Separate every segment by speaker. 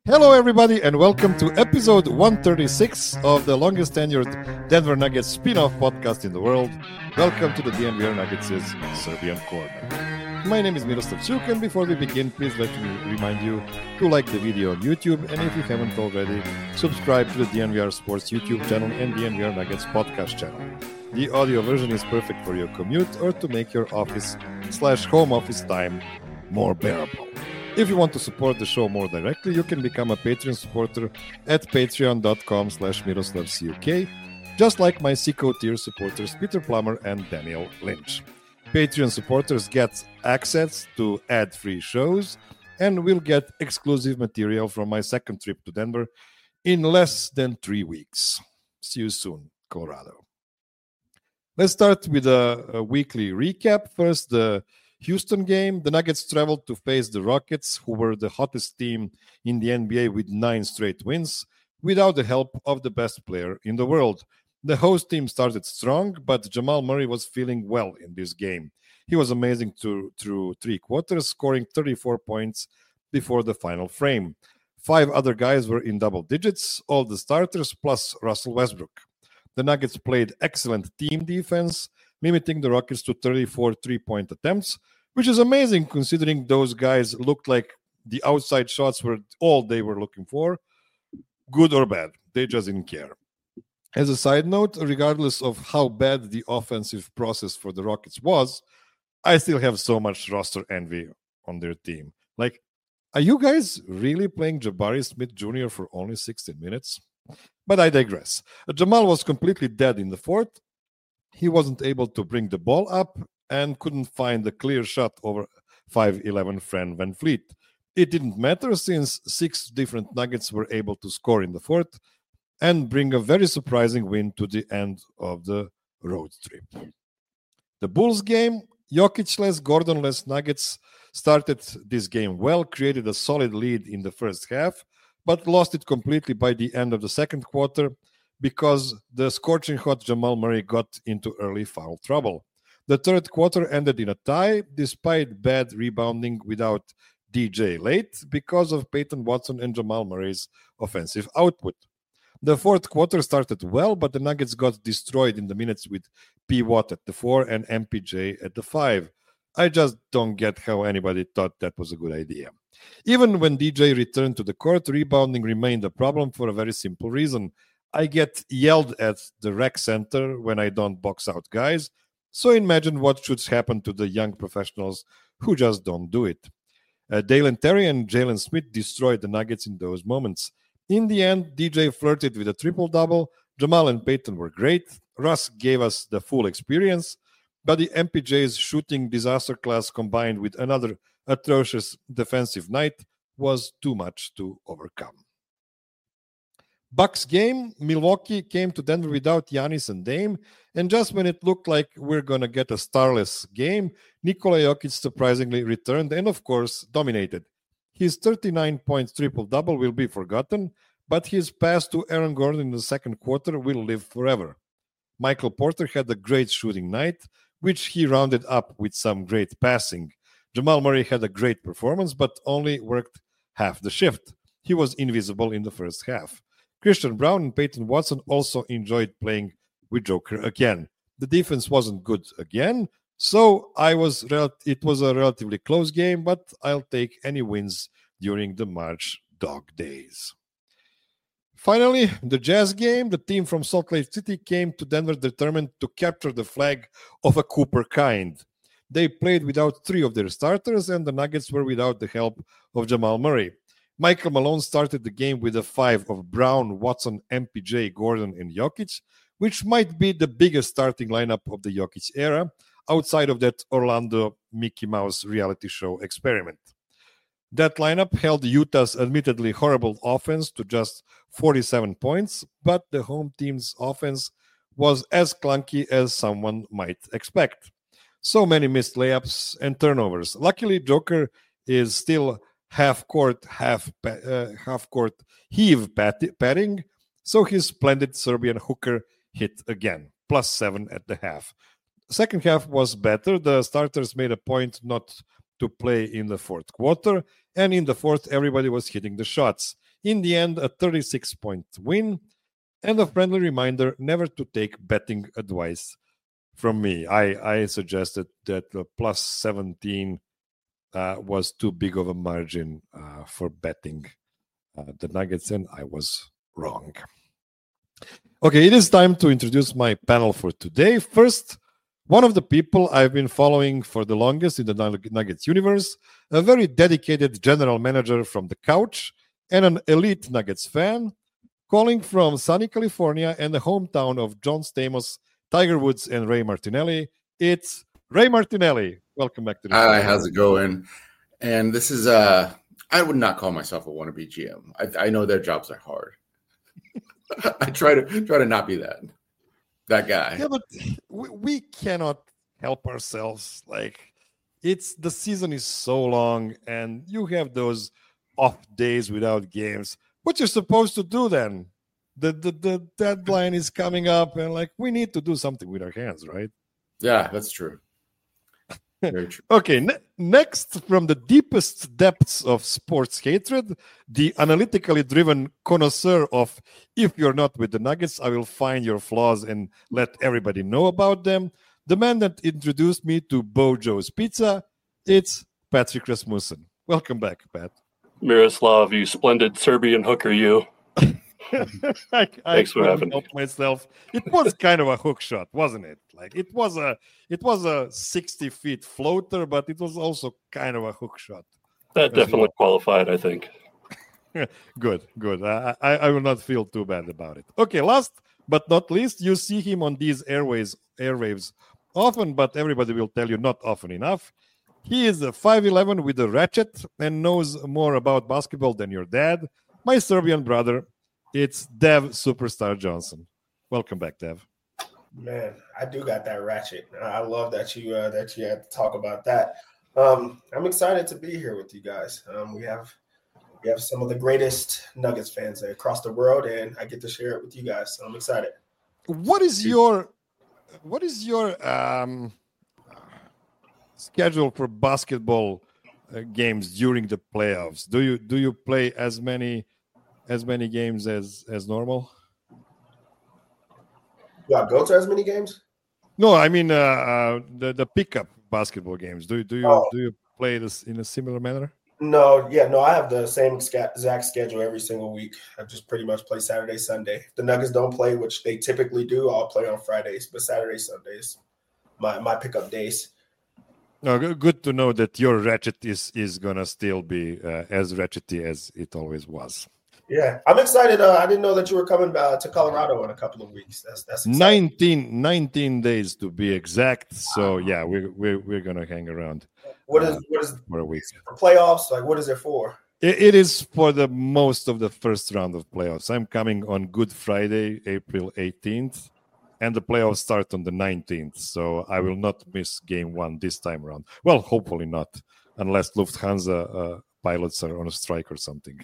Speaker 1: Hello, everybody, and welcome to episode 136 of the longest tenured Denver Nuggets spin off podcast in the world. Welcome to the DNVR Nuggets' Serbian Corner. My name is Miroslav Suk, and before we begin, please let me remind you to like the video on YouTube, and if you haven't already, subscribe to the DNVR Sports YouTube channel and DNVR Nuggets podcast channel. The audio version is perfect for your commute or to make your office/home office time more bearable. If you want to support the show more directly, you can become a Patreon supporter at patreon.com/MiroslavCuk, just like my Seco tier supporters Peter Plummer and Daniel Lynch. Patreon supporters get access to ad-free shows and will get exclusive material from my second trip to Denver in less than 3 weeks. See you soon, Colorado. Let's start with a weekly recap. First, the Houston game. The Nuggets traveled to face the Rockets, who were the hottest team in the NBA with 9 straight wins, without the help of the best player in the world. The host team started strong, but Jamal Murray was feeling well in this game. He was amazing through 3 quarters, scoring 34 points before the final frame. 5 other guys were in double digits, all the starters plus Russell Westbrook. The Nuggets played excellent team defense, limiting the Rockets to 34 three-point attempts, which is amazing considering those guys looked like the outside shots were all they were looking for, good or bad. They just didn't care. As a side note, regardless of how bad the offensive process for the Rockets was, I still have so much roster envy on their team. Like, are you guys really playing Jabari Smith Jr. for only 16 minutes? But I digress. Jamal was completely dead in the fourth. He wasn't able to bring the ball up and couldn't find a clear shot over 5'11" Fred VanVleet. It didn't matter since 6 different Nuggets were able to score in the fourth and bring a very surprising win to the end of the road trip. The Bulls game, Jokic-less, Gordon-less Nuggets started this game well, created a solid lead in the first half, but lost it completely by the end of the second quarter because the scorching hot Jamal Murray got into early foul trouble. The third quarter ended in a tie, despite bad rebounding without DJ late because of Peyton Watson and Jamal Murray's offensive output. The fourth quarter started well, but the Nuggets got destroyed in the minutes with P. Watt at the 4 and MPJ at the 5. I just don't get how anybody thought that was a good idea. Even when DJ returned to the court, rebounding remained a problem for a very simple reason. I get yelled at the rec center when I don't box out guys, so imagine what should happen to the young professionals who just don't do it. Dalen Terry and Jalen Smith destroyed the Nuggets in those moments. In the end, DJ flirted with a triple-double. Jamal and Peyton were great. Russ gave us the full experience, but the MPJ's shooting disaster class combined with another atrocious defensive night was too much to overcome. Bucks game, Milwaukee came to Denver without Giannis and Dame, and just when it looked like we're going to get a starless game, Nikola Jokic surprisingly returned and, of course, dominated. His 39-point triple-double will be forgotten, but his pass to Aaron Gordon in the second quarter will live forever. Michael Porter had a great shooting night, which he rounded up with some great passing. Jamal Murray had a great performance, but only worked half the shift. He was invisible in the first half. Christian Brown and Peyton Watson also enjoyed playing with Joker again. The defense wasn't good again, so it was a relatively close game, but I'll take any wins during the March dog days. Finally, the Jazz game, the team from Salt Lake City came to Denver determined to capture the flag of a Cooper kind. They played without 3 of their starters, and the Nuggets were without the help of Jamal Murray. Michael Malone started the game with a 5 of Brown, Watson, MPJ, Gordon, and Jokic, which might be the biggest starting lineup of the Jokic era, outside of that Orlando Mickey Mouse reality show experiment. That lineup held Utah's admittedly horrible offense to just 47 points, but the home team's offense was as clunky as someone might expect. So many missed layups and turnovers. Luckily, Joker is still half-court heave padding, so his splendid Serbian hooker hit again, +7 at the half. Second half was better. The starters made a point not to play in the fourth quarter, and in the fourth, everybody was hitting the shots. In the end, a 36-point win. And a friendly reminder never to take betting advice from me. I suggested that the plus 17 was too big of a margin for betting the Nuggets, and I was wrong. Okay, it is time to introduce my panel for today. First, one of the people I've been following for the longest in the Nuggets universe, a very dedicated general manager from the couch and an elite Nuggets fan, calling from sunny California and the hometown of John Stamos, Tiger Woods, and Ray Martinelli. It's Ray Martinelli. Welcome back to the show.
Speaker 2: Hi, how's it going? And this is I would not call myself a wannabe GM. I know their jobs are hard. I try to not be that guy.
Speaker 1: Yeah, but we cannot help ourselves. Like, the season is so long, and you have those off days without games. What you're supposed to do then? The deadline is coming up, and like we need to do something with our hands, right?
Speaker 2: Yeah, that's true. Very true.
Speaker 1: Okay, next, from the deepest depths of sports hatred, the analytically driven connoisseur of if you're not with the Nuggets, I will find your flaws and let everybody know about them. The man that introduced me to Bojo's Pizza, it's Patrick Rasmussen. Welcome back, Pat.
Speaker 3: Miroslav, you splendid Serbian hooker, you.
Speaker 1: Thanks for having me. Myself. It was kind of a hook shot, wasn't it? Like it was a 60 feet floater, but it was also kind of a hook shot.
Speaker 3: That definitely qualified, I think.
Speaker 1: Good. I will not feel too bad about it. Okay, last but not least, you see him on these airwaves often, but everybody will tell you not often enough. He is a 5'11" with a ratchet and knows more about basketball than your dad. My Serbian brother, it's Dev Superstar Johnson. Welcome back, Dev.
Speaker 4: Man, I do got that ratchet. I love that you had to talk about that. I'm excited to be here with you guys. We have some of the greatest Nuggets fans across the world, and I get to share it with you guys. So I'm excited.
Speaker 1: What is your schedule for basketball games during the playoffs? Do you play as many games as normal?
Speaker 4: Do I go to as many games?
Speaker 1: No, I mean the pickup basketball games. Do you play this in a similar manner?
Speaker 4: No. I have the same exact schedule every single week. I just pretty much play Saturday, Sunday. If the Nuggets don't play, which they typically do, I'll play on Fridays. But Saturday, Sundays, my pickup days.
Speaker 1: No, good to know that your ratchet is gonna still be as ratchety as it always was.
Speaker 4: Yeah, I'm excited. I didn't know that you were coming to Colorado in a couple of weeks. That's exciting.
Speaker 1: 19 days to be exact. So yeah, we're gonna hang around.
Speaker 4: What is
Speaker 1: for a week
Speaker 4: for playoffs? Like, what is it for?
Speaker 1: It is for the most of the first round of playoffs. I'm coming on Good Friday, April 18th, and the playoffs start on the 19th. So I will not miss game one this time around. Well, hopefully not, unless Lufthansa pilots are on a strike or something.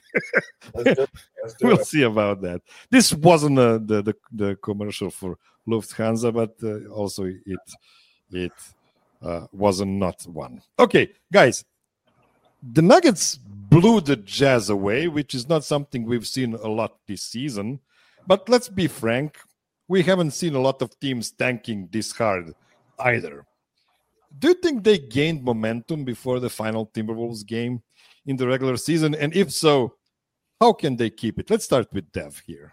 Speaker 1: We'll see about that. This wasn't the commercial for Lufthansa, but also it wasn't not one. Okay, guys, the Nuggets blew the Jazz away, which is not something we've seen a lot this season. But let's be frank, we haven't seen a lot of teams tanking this hard either. Do you think they gained momentum before the final Timberwolves game in the regular season? And if so, how can they keep it? Let's start with Dev here.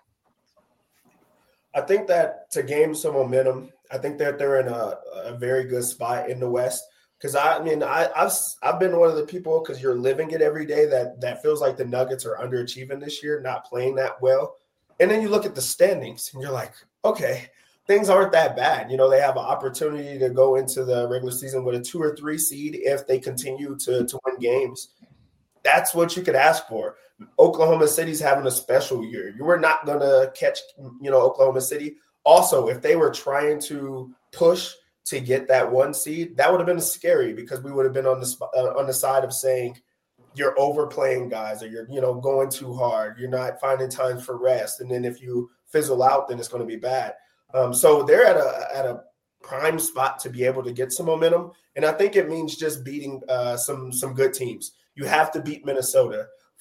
Speaker 4: I think that to gain some momentum, I think that they're in a very good spot in the West. Because I've been one of the people, because you're living it every day, that feels like the Nuggets are underachieving this year, not playing that well. And then you look at the standings and you're like, okay, things aren't that bad. You know, they have an opportunity to go into the regular season with a 2 or 3 seed if they continue to win games. That's what you could ask for. Oklahoma City's having a special year. You were not going to catch, Oklahoma City. Also, if they were trying to push to get that 1 seed, that would have been scary, because we would have been on the side of saying you're overplaying guys, or you're going too hard. You're not finding time for rest, and then if you fizzle out, then it's going to be bad. So they're at a prime spot to be able to get some momentum, and I think it means just beating some good teams. You have to beat Minnesota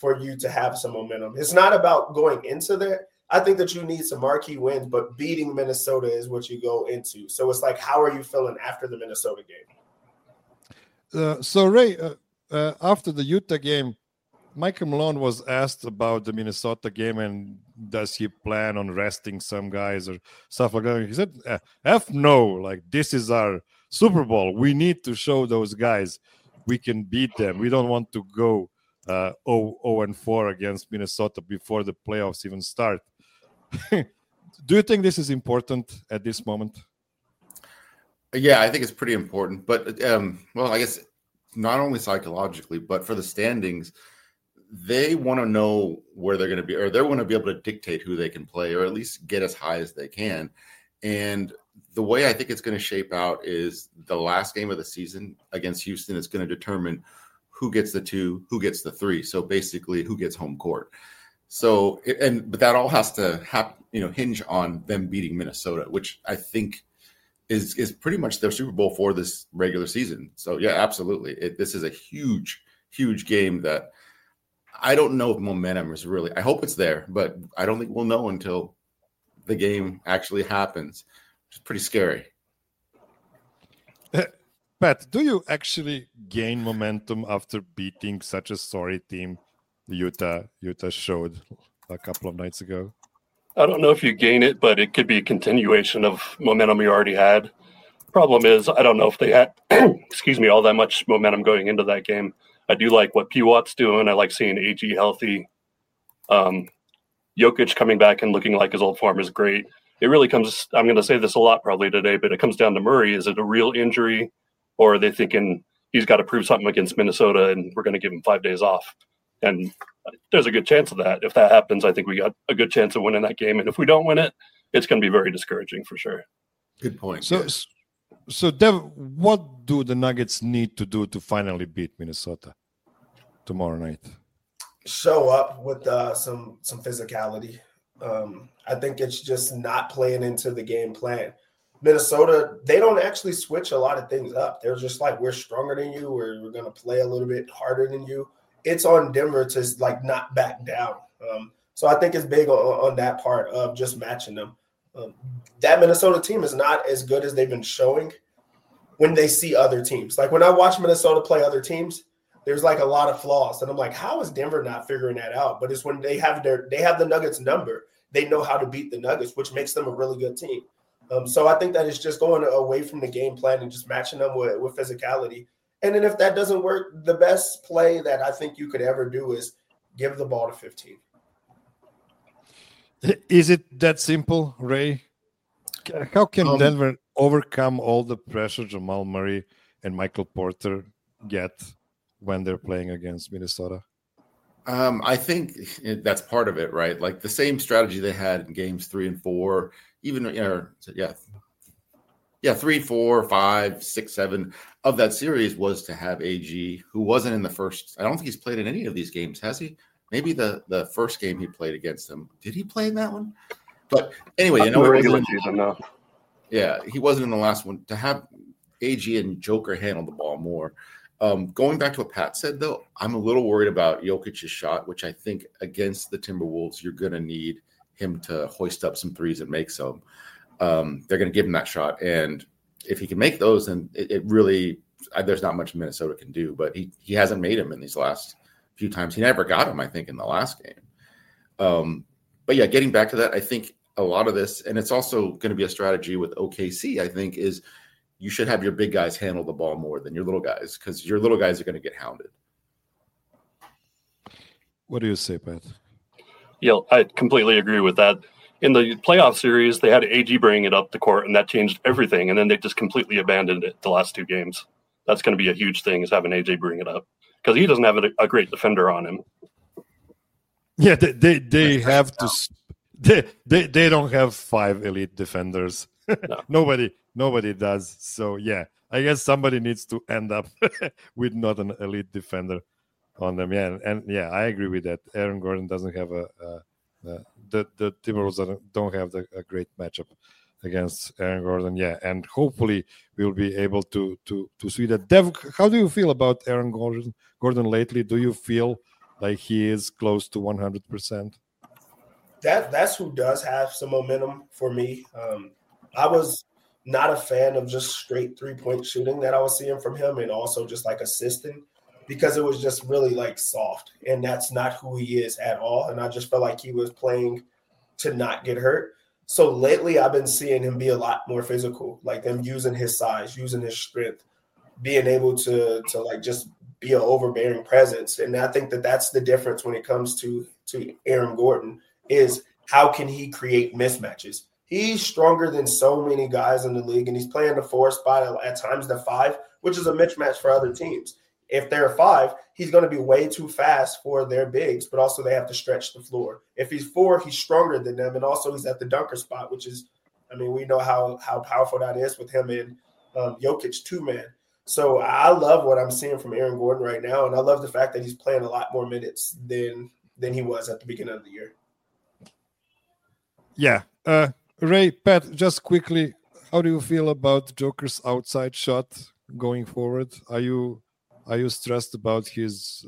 Speaker 4: for you to have some momentum. It's not about going into there. I think that you need some marquee wins, but beating Minnesota is what you go into. So it's like, how are you feeling after the Minnesota game?
Speaker 1: So Ray, after the Utah game, Michael Malone was asked about the Minnesota game and does he plan on resting some guys or stuff like that. He said, F no, like this is our Super Bowl. We need to show those guys we can beat them. We don't want to go 0-4 against Minnesota before the playoffs even start. Do you think this is important at this moment?
Speaker 2: Yeah, I think it's pretty important. But, well, I guess not only psychologically, but for the standings, they want to know where they're going to be, or they want to be able to dictate who they can play, or at least get as high as they can. And the way I think it's going to shape out is the last game of the season against Houston is going to determine who gets the 2, who gets the 3. So basically, who gets home court. So, but that all has to hinge on them beating Minnesota, which I think is pretty much their Super Bowl for this regular season. So yeah, absolutely. This is a huge, huge game that I don't know if momentum is really, I hope it's there, but I don't think we'll know until the game actually happens, which is pretty scary.
Speaker 1: Pat, do you actually gain momentum after beating such a sorry team Utah showed a couple of nights ago?
Speaker 3: I don't know if you gain it, but it could be a continuation of momentum you already had. Problem is, I don't know if they had, all that much momentum going into that game. I do like what P-Watt's doing. I like seeing AG healthy. Jokic coming back and looking like his old form is great. It really comes, I'm going to say this a lot probably today, but it comes down to Murray. Is it a real injury, or are they thinking he's got to prove something against Minnesota and we're going to give him 5 days off? And there's a good chance of that. If that happens, I think we got a good chance of winning that game. And if we don't win it, it's going to be very discouraging for sure.
Speaker 2: Good point.
Speaker 1: So Dev, what do the Nuggets need to do to finally beat Minnesota tomorrow night?
Speaker 4: Show up with some physicality. I think it's just not playing into the game plan. Minnesota, they don't actually switch a lot of things up. They're just like, we're stronger than you. We're going to play a little bit harder than you. It's on Denver to like not back down. So I think it's big on that part of just matching them. That Minnesota team is not as good as they've been showing when they see other teams. Like when I watch Minnesota play other teams, there's like a lot of flaws. And I'm like, how is Denver not figuring that out? But it's when they have the Nuggets number, they know how to beat the Nuggets, which makes them a really good team. So I think that it's just going away from the game plan and just matching them with physicality. And then if that doesn't work, the best play that I think you could ever do is give the ball to 15.
Speaker 1: Is it that simple, Ray? How can Denver overcome all the pressure Jamal Murray and Michael Porter get when they're playing against Minnesota?
Speaker 2: I think that's part of it, right? Like the same strategy they had in games 3 and 4, even 3, 4, 5, 6, 7 of that series was to have AG, who wasn't in the first. I don't think he's played in any of these games, has he? Maybe the first game he played against him. Did he play in that one? But anyway,
Speaker 3: regular season, no.
Speaker 2: Yeah, he wasn't in the last one. To have AG and Joker handle the ball more. Going back to what Pat said, though, I'm a little worried about Jokic's shot, which I think against the Timberwolves, you're going to need him to hoist up some threes and make some. They're going to give him that shot. And if he can make those, then it really there's not much Minnesota can do. But he hasn't made them in these last few times. He never got them, I think, in the last game. But yeah, getting back to that, I think a lot of this, and it's also going to be a strategy with OKC, I think, is you should have your big guys handle the ball more than your little guys, because your little guys are going to get hounded.
Speaker 1: What do you say, Pat?
Speaker 3: Yeah, I completely agree with that. In the playoff series, they had AG bringing it up the court, and that changed everything. And then they just completely abandoned it the last 2 games. That's going to be a huge thing, is having AJ bring it up, because he doesn't have a great defender on him.
Speaker 1: Yeah, they have to. They don't have 5 elite defenders. No. Nobody does. So yeah, I guess somebody needs to end up with not an elite defender on them. Yeah, and yeah, I agree with that. Aaron Gordon doesn't have the Timberwolves don't have a great matchup against Aaron Gordon. Yeah, and hopefully we'll be able to see that. Dev, how do you feel about Aaron Gordon lately? Do you feel like he is close to 100%?
Speaker 4: That's who does have some momentum for me. I was not a fan of just straight 3-point shooting that I was seeing from him, and also just like assisting, because it was just really like soft, and that's not who he is at all. And I just felt like he was playing to not get hurt. So lately I've been seeing him be a lot more physical, like them using his size, using his strength, being able to like just be an overbearing presence. And I think that that's the difference when it comes to Aaron Gordon, is how can he create mismatches? He's stronger than so many guys in the league, and he's playing the 4 spot, at times the 5, which is a mismatch for other teams. If they're 5, he's going to be way too fast for their bigs, but also they have to stretch the floor. If he's 4, he's stronger than them, and also he's at the dunker spot, which is, I mean, we know how powerful that is with him and Jokic 2-man. So I love what I'm seeing from Aaron Gordon right now, and I love the fact that he's playing a lot more minutes than he was at the beginning of the year.
Speaker 1: Yeah. Ray, Pat, just quickly, how do you feel about Joker's outside shot going forward? Are you stressed about his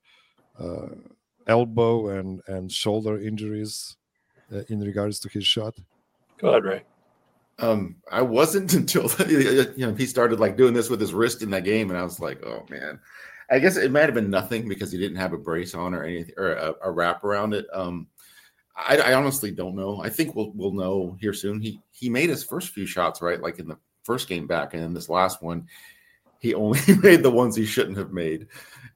Speaker 1: elbow and shoulder injuries in regards to his shot?
Speaker 3: Go ahead, Ray.
Speaker 2: I wasn't until he started like doing this with his wrist in that game, and I was like, oh man. I guess it might have been nothing because he didn't have a brace on or anything, or a wrap around it. I honestly don't know. I think we'll know here soon. He made his first few shots right, like in the first game back, and then this last one, he only made the ones he shouldn't have made.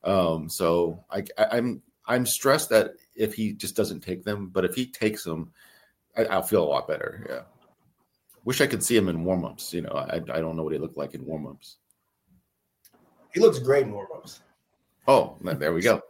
Speaker 2: So I'm stressed that if he just doesn't take them, but if he takes them, I'll feel a lot better. Yeah. Wish I could see him in warmups. I don't know what he looked like in warmups.
Speaker 4: He looks great in warmups.
Speaker 2: Oh, there we go.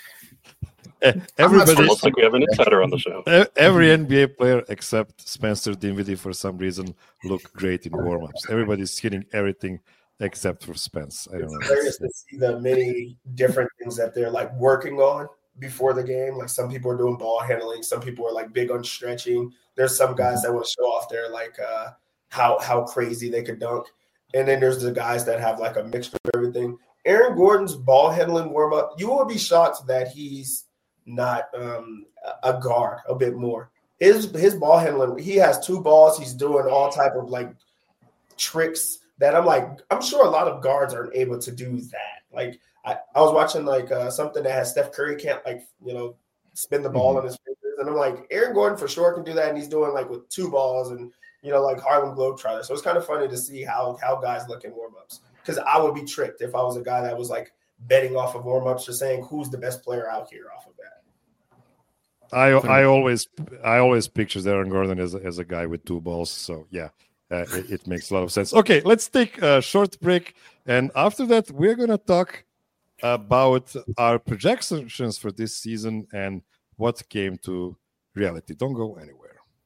Speaker 1: Everybody
Speaker 3: looks like we have an insider on the show.
Speaker 1: Every NBA player except Spencer Dinwiddie, for some reason, look great in warmups. Everybody's hitting everything except for Spence. I don't know.
Speaker 4: It's hilarious to see the many different things that they're like working on before the game. Like some people are doing ball handling, some people are like big on stretching. There's some guys that want to show off their like how crazy they could dunk, and then there's the guys that have like a mixture of everything. Aaron Gordon's ball handling warm up, you will be shocked that he's not a guard a bit more. His ball handling, he has 2 balls. He's doing all type of like tricks that I'm sure a lot of guards aren't able to do that. Like I was watching like something that has Steph Curry can't like, spin the ball in his fingers. And I'm like, Aaron Gordon for sure can do that. And he's doing like with 2 balls and, like Harlem Globetrotters. So it's kind of funny to see how guys look in warmups, because I would be tricked if I was a guy that was like betting off of warmups or saying who's the best player out here off of that.
Speaker 1: I always picture Aaron Gordon as a guy with 2 balls. So yeah, it makes a lot of sense. Okay, let's take a short break, and after that we're gonna talk about our projections for this season and what came to reality. Don't go anywhere.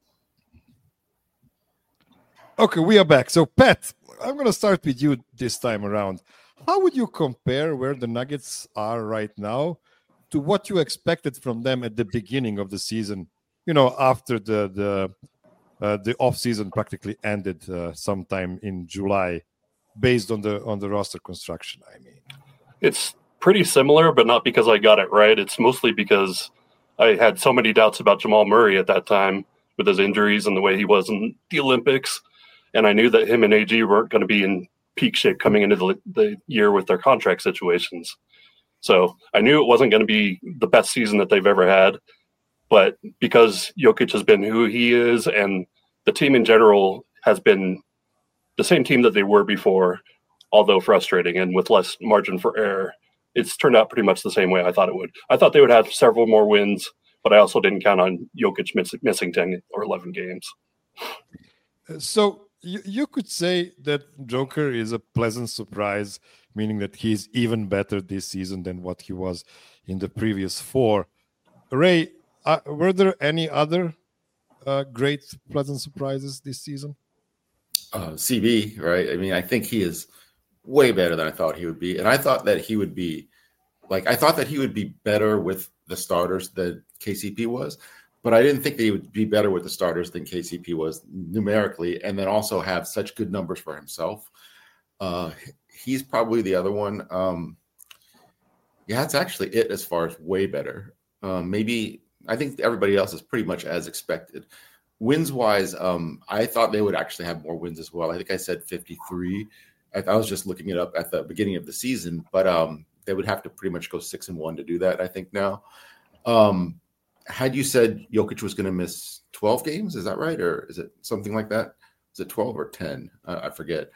Speaker 1: Okay, we are back. So Pat, I'm gonna start with you this time around. How would you compare where the Nuggets are right now to what you expected from them at the beginning of the season? After the off season practically ended sometime in July, based on the roster construction. I mean,
Speaker 3: it's pretty similar, but not because I got it right. It's mostly because I had so many doubts about Jamal Murray at that time with his injuries and the way he was in the Olympics, and I knew that him and AG weren't going to be in peak shape coming into the year with their contract situations. So I knew it wasn't going to be the best season that they've ever had, but because Jokic has been who he is and the team in general has been the same team that they were before, although frustrating and with less margin for error, it's turned out pretty much the same way I thought it would. I thought they would have several more wins, but I also didn't count on Jokic missing 10 or 11 games.
Speaker 1: So you could say that Joker is a pleasant surprise, meaning that he's even better this season than what he was in the previous 4. Ray, were there any other great pleasant surprises this season?
Speaker 2: CB, right? I mean, I think he is way better than I thought he would be. And I thought that he would be better with the starters than KCP was. But I didn't think that he would be better with the starters than KCP was numerically, and then also have such good numbers for himself. He's probably the other one. Yeah, that's actually it as far as way better. Maybe I think everybody else is pretty much as expected. Wins wise, I thought they would actually have more wins as well. I think I said 53. I was just looking it up at the beginning of the season, but they would have to pretty much go 6-1 to do that, I think now. Had you said Jokic was going to miss 12 games, is that right? Or is it something like that? Is it 12 or 10? I forget.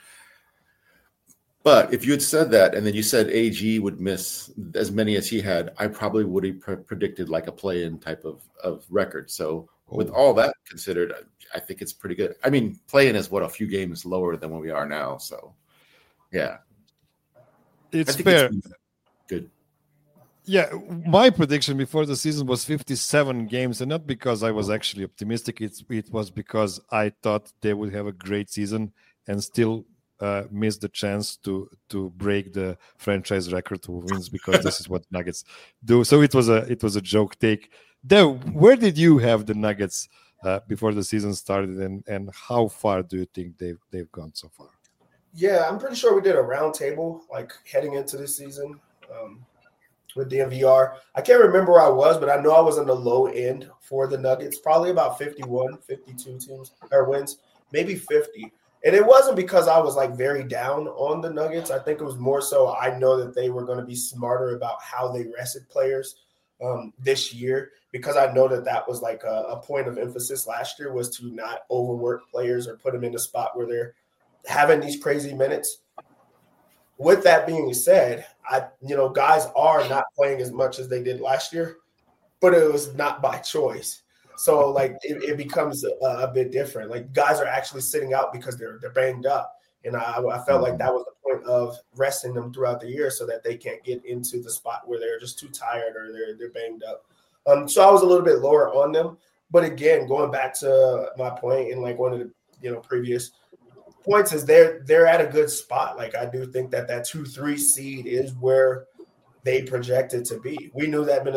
Speaker 2: But if you had said that, and then you said AG would miss as many as he had, I probably would have predicted like a play-in type of record. So with all that considered, I think it's pretty good. I mean, play-in is a few games lower than where we are now. So, yeah.
Speaker 1: It's fair.
Speaker 2: It's good.
Speaker 1: Yeah, my prediction before the season was 57 games, and not because I was actually optimistic. It was because I thought they would have a great season and still miss the chance to break the franchise record of wins, because this is what Nuggets do. So it was a joke take. Where did you have the Nuggets before the season started, and how far do you think they've gone so far?
Speaker 4: Yeah, I'm pretty sure we did a round table like heading into this season with DNVR. I can't remember where I was, but I know I was on the low end for the Nuggets, probably about 51, 52 teams or wins, maybe 50. And it wasn't because I was like very down on the Nuggets. I think it was more so I know that they were going to be smarter about how they rested players this year, because I know that was like a point of emphasis last year, was to not overwork players or put them in a spot where they're having these crazy minutes. With that being said, guys are not playing as much as they did last year, but it was not by choice. So like it becomes a bit different. Like guys are actually sitting out because they're banged up, and I felt like that was the point of resting them throughout the year so that they can't get into the spot where they're just too tired or they're banged up. So I was a little bit lower on them, but again, going back to my point in like one of the previous points is they're at a good spot. Like I do think that 2-3 seed is where they projected to be. We knew that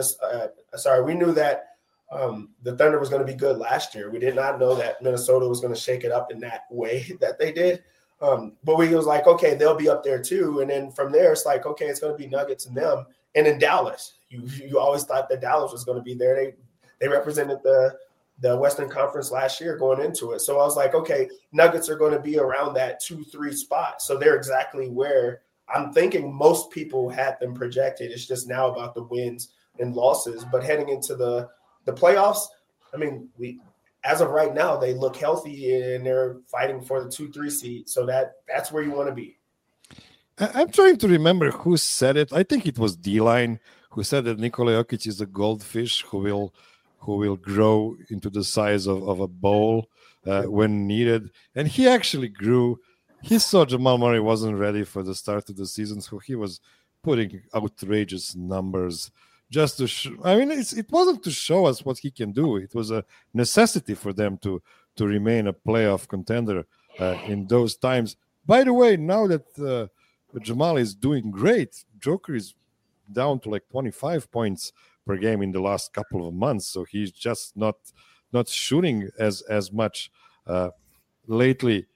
Speaker 4: the Thunder was going to be good last year. We did not know that Minnesota was going to shake it up in that way that they did. But we was like, okay, they'll be up there too. And then from there, it's like, okay, it's going to be Nuggets and them. And in Dallas, you always thought that Dallas was going to be there. They represented the Western Conference last year going into it. So I was like, okay, Nuggets are going to be around that 2-3 spot. So they're exactly where I'm thinking most people had them projected. It's just now about the wins and losses. But heading into the playoffs, I mean, as of right now, they look healthy and they're fighting for the 2-3 seed. So that's where you want to be.
Speaker 1: I'm trying to remember who said it. I think it was D-Line who said that Nikola Jokic is a goldfish who will grow into the size of a bowl when needed. And he actually grew. He saw Jamal Murray wasn't ready for the start of the season, so he was putting outrageous numbers just to it wasn't to show us what he can do. It was a necessity for them to remain a playoff contender in those times. By the way, now that Jamal is doing great, Joker is down to like 25 points per game in the last couple of months, so he's just not shooting as much lately.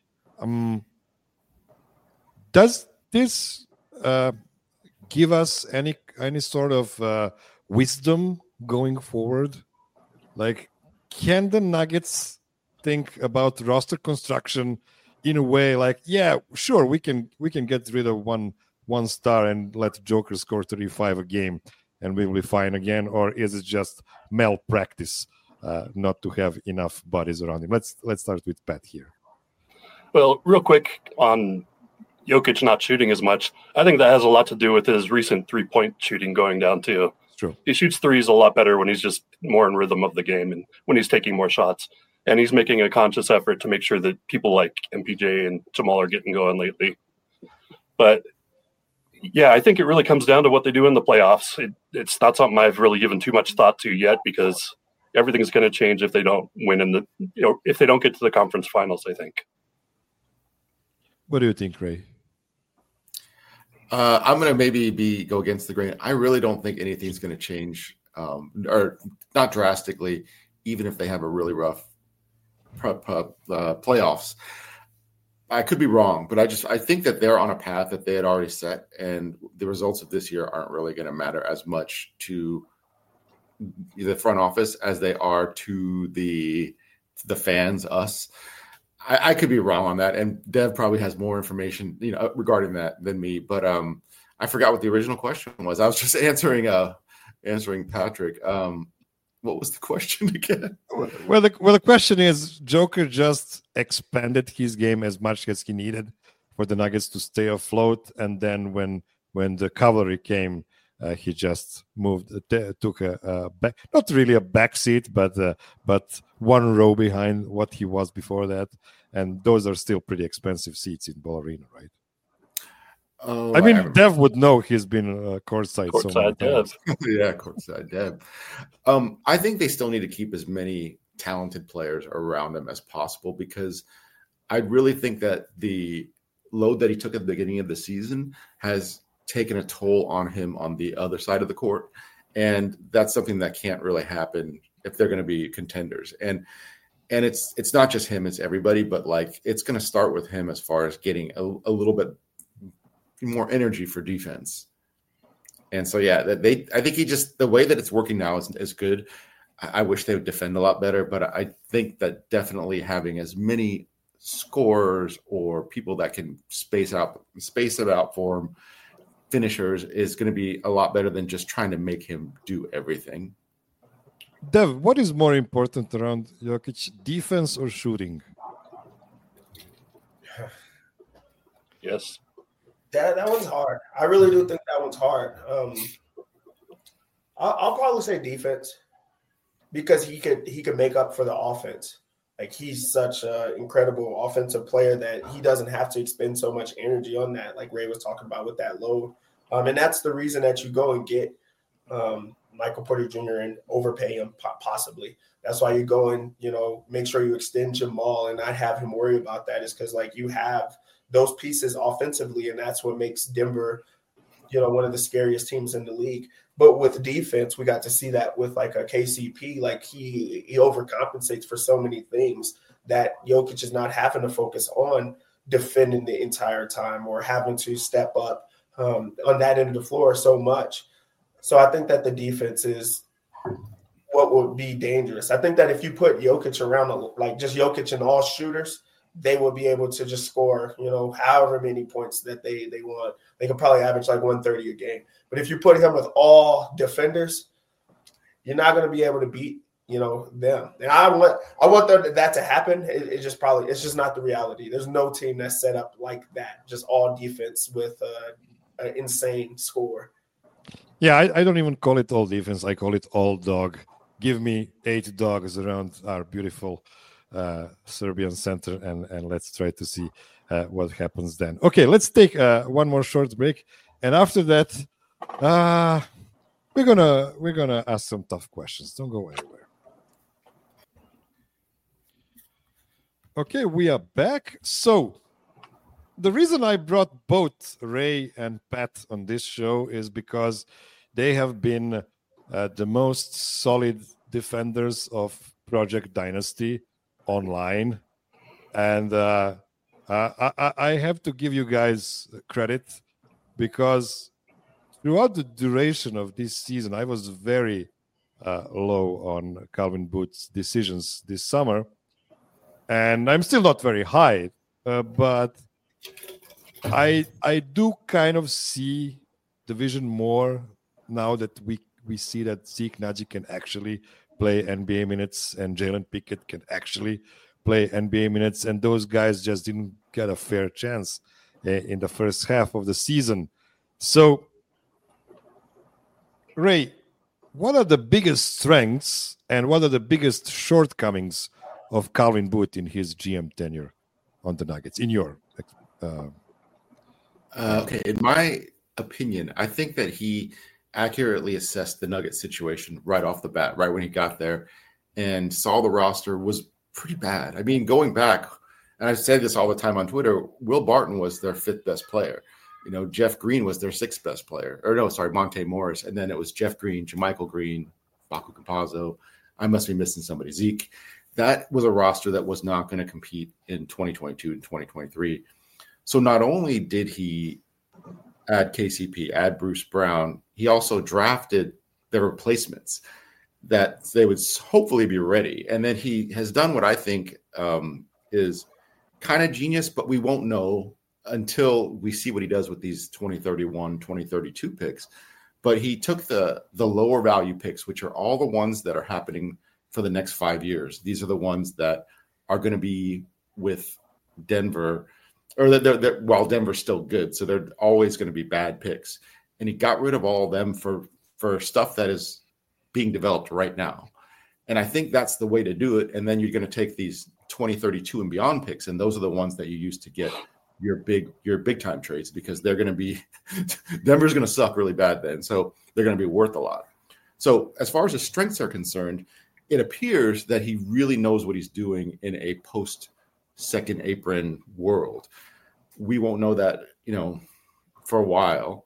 Speaker 1: Does this give us any sort of wisdom going forward? Like, can the Nuggets think about roster construction in a way like, yeah, sure, we can get rid of one star and let Joker score 35 a game and we will be fine again? Or is it just malpractice not to have enough bodies around him? Let's start with Pat here.
Speaker 3: Well, real quick on Jokic not shooting as much, I think that has a lot to do with his recent three-point shooting going down too.
Speaker 1: True.
Speaker 3: He shoots threes a lot better when he's just more in rhythm of the game and when he's taking more shots. And he's making a conscious effort to make sure that people like MPJ and Jamal are getting going lately. But yeah, I think it really comes down to what they do in the playoffs. It's not something I've really given too much thought to yet, because everything's going to change if they don't win if they don't get to the conference finals, I think.
Speaker 1: What do you think, Ray?
Speaker 2: I'm going to maybe go against the grain. I really don't think anything's going to change, or not drastically, even if they have a really rough playoffs. I could be wrong, but I think that they're on a path that they had already set, and the results of this year aren't really going to matter as much to the front office as they are to the fans, us. I could be wrong on that, and Dev probably has more information, regarding that than me. But I forgot what the original question was. I was just answering Patrick. What was the question again?
Speaker 1: Well, the question is, Joker just expanded his game as much as he needed for the Nuggets to stay afloat, and then when the cavalry came, he just took a back, not really a back seat, but one row behind what he was before that, and those are still pretty expensive seats in Ball Arena, right?
Speaker 2: Oh,
Speaker 1: I mean, Dev would know. He's been courtside so many times.
Speaker 2: Yeah, courtside Dev. I think they still need to keep as many talented players around them as possible, because I really think that the load that he took at the beginning of the season has taken a toll on him on the other side of the court, and that's something that can't really happen if they're going to be contenders. And it's not just him; it's everybody. But like, it's going to start with him as far as getting a little bit more energy for defense. And so, yeah, I think the way that it's working now is good. I wish they would defend a lot better, but I think that definitely having as many scorers or people that can space it out for him, finishers, is going to be a lot better than just trying to make him do everything.
Speaker 1: Dev, what is more important around Jokic, defense or shooting?
Speaker 3: Yes.
Speaker 4: That one's hard. I really do think that one's hard. I'll probably say defense, because he could make up for the offense. Like, he's such an incredible offensive player that he doesn't have to expend so much energy on that, like Ray was talking about with that load. And that's the reason that you go and get Michael Porter Jr. and overpay him possibly. That's why you go and, make sure you extend Jamal and not have him worry about that, is because, like, you have those pieces offensively, and that's what makes Denver, one of the scariest teams in the league. But with defense, we got to see that with like a KCP. Like, he overcompensates for so many things that Jokic is not having to focus on defending the entire time or having to step up on that end of the floor so much. So I think that the defense is what would be dangerous. I think that if you put Jokic around, like just Jokic and all shooters, they will be able to just score, however many points that they want. They could probably average like 130 a game. But if you put him with all defenders, you're not going to be able to beat, them. And I want that to happen. It's just not the reality. There's no team that's set up like that, just all defense with an insane score.
Speaker 1: Yeah, I don't even call it all defense. I call it all dog. Give me 8 dogs around our beautiful Serbian center, and let's try to see what happens then. Okay, let's take one more short break, and after that, we're gonna ask some tough questions. Don't go anywhere. Okay, we are back. So the reason I brought both Ray and Pat on this show is because they have been the most solid defenders of Project Dynasty online, and I have to give you guys credit, because throughout the duration of this season I was very low on Calvin Booth's decisions this summer, and I'm still not very high, but I do kind of see the vision more now that we see that Zeke Naji can actually play NBA minutes and Jalen Pickett can actually play NBA minutes, and those guys just didn't get a fair chance in the first half of the season. So, Ray, what are the biggest strengths and what are the biggest shortcomings of Calvin Booth in his GM tenure on the Nuggets, in your
Speaker 2: okay, in my opinion, I think that he accurately assessed the Nuggets situation right off the bat, right when he got there, and saw the roster was pretty bad. I mean, going back, and I say this all the time on Twitter, Will Barton was their 5th best player. Jeff Green was their 6th best player. Or no, sorry, Monte Morris. And then it was Jeff Green, JaMychal Green, Facu Campazzo. I must be missing somebody. Zeke. that was a roster that was not going to compete in 2022 and 2023. So not only did he add KCP, add Bruce Brown, he also drafted the replacements that they would hopefully be ready. And then he has done what I think is kind of genius, but we won't know until we see what he does with these 2031, 2032 picks. But he took the lower value picks, which are all the ones that are happening for the next 5 years. These are the ones that are going to be with Denver, or they're while Denver's still good. So they're always going to be bad picks. And he got rid of all of them for stuff that is being developed right now. And I think that's the way to do it. And then you're going to take these 2032 and beyond picks, and those are the ones that you use to get your big time trades, because they're going to be Denver's going to suck really bad then. So they're going to be worth a lot. So as far as his strengths are concerned, it appears that he really knows what he's doing in a post second apron world. We won't know that, for a while.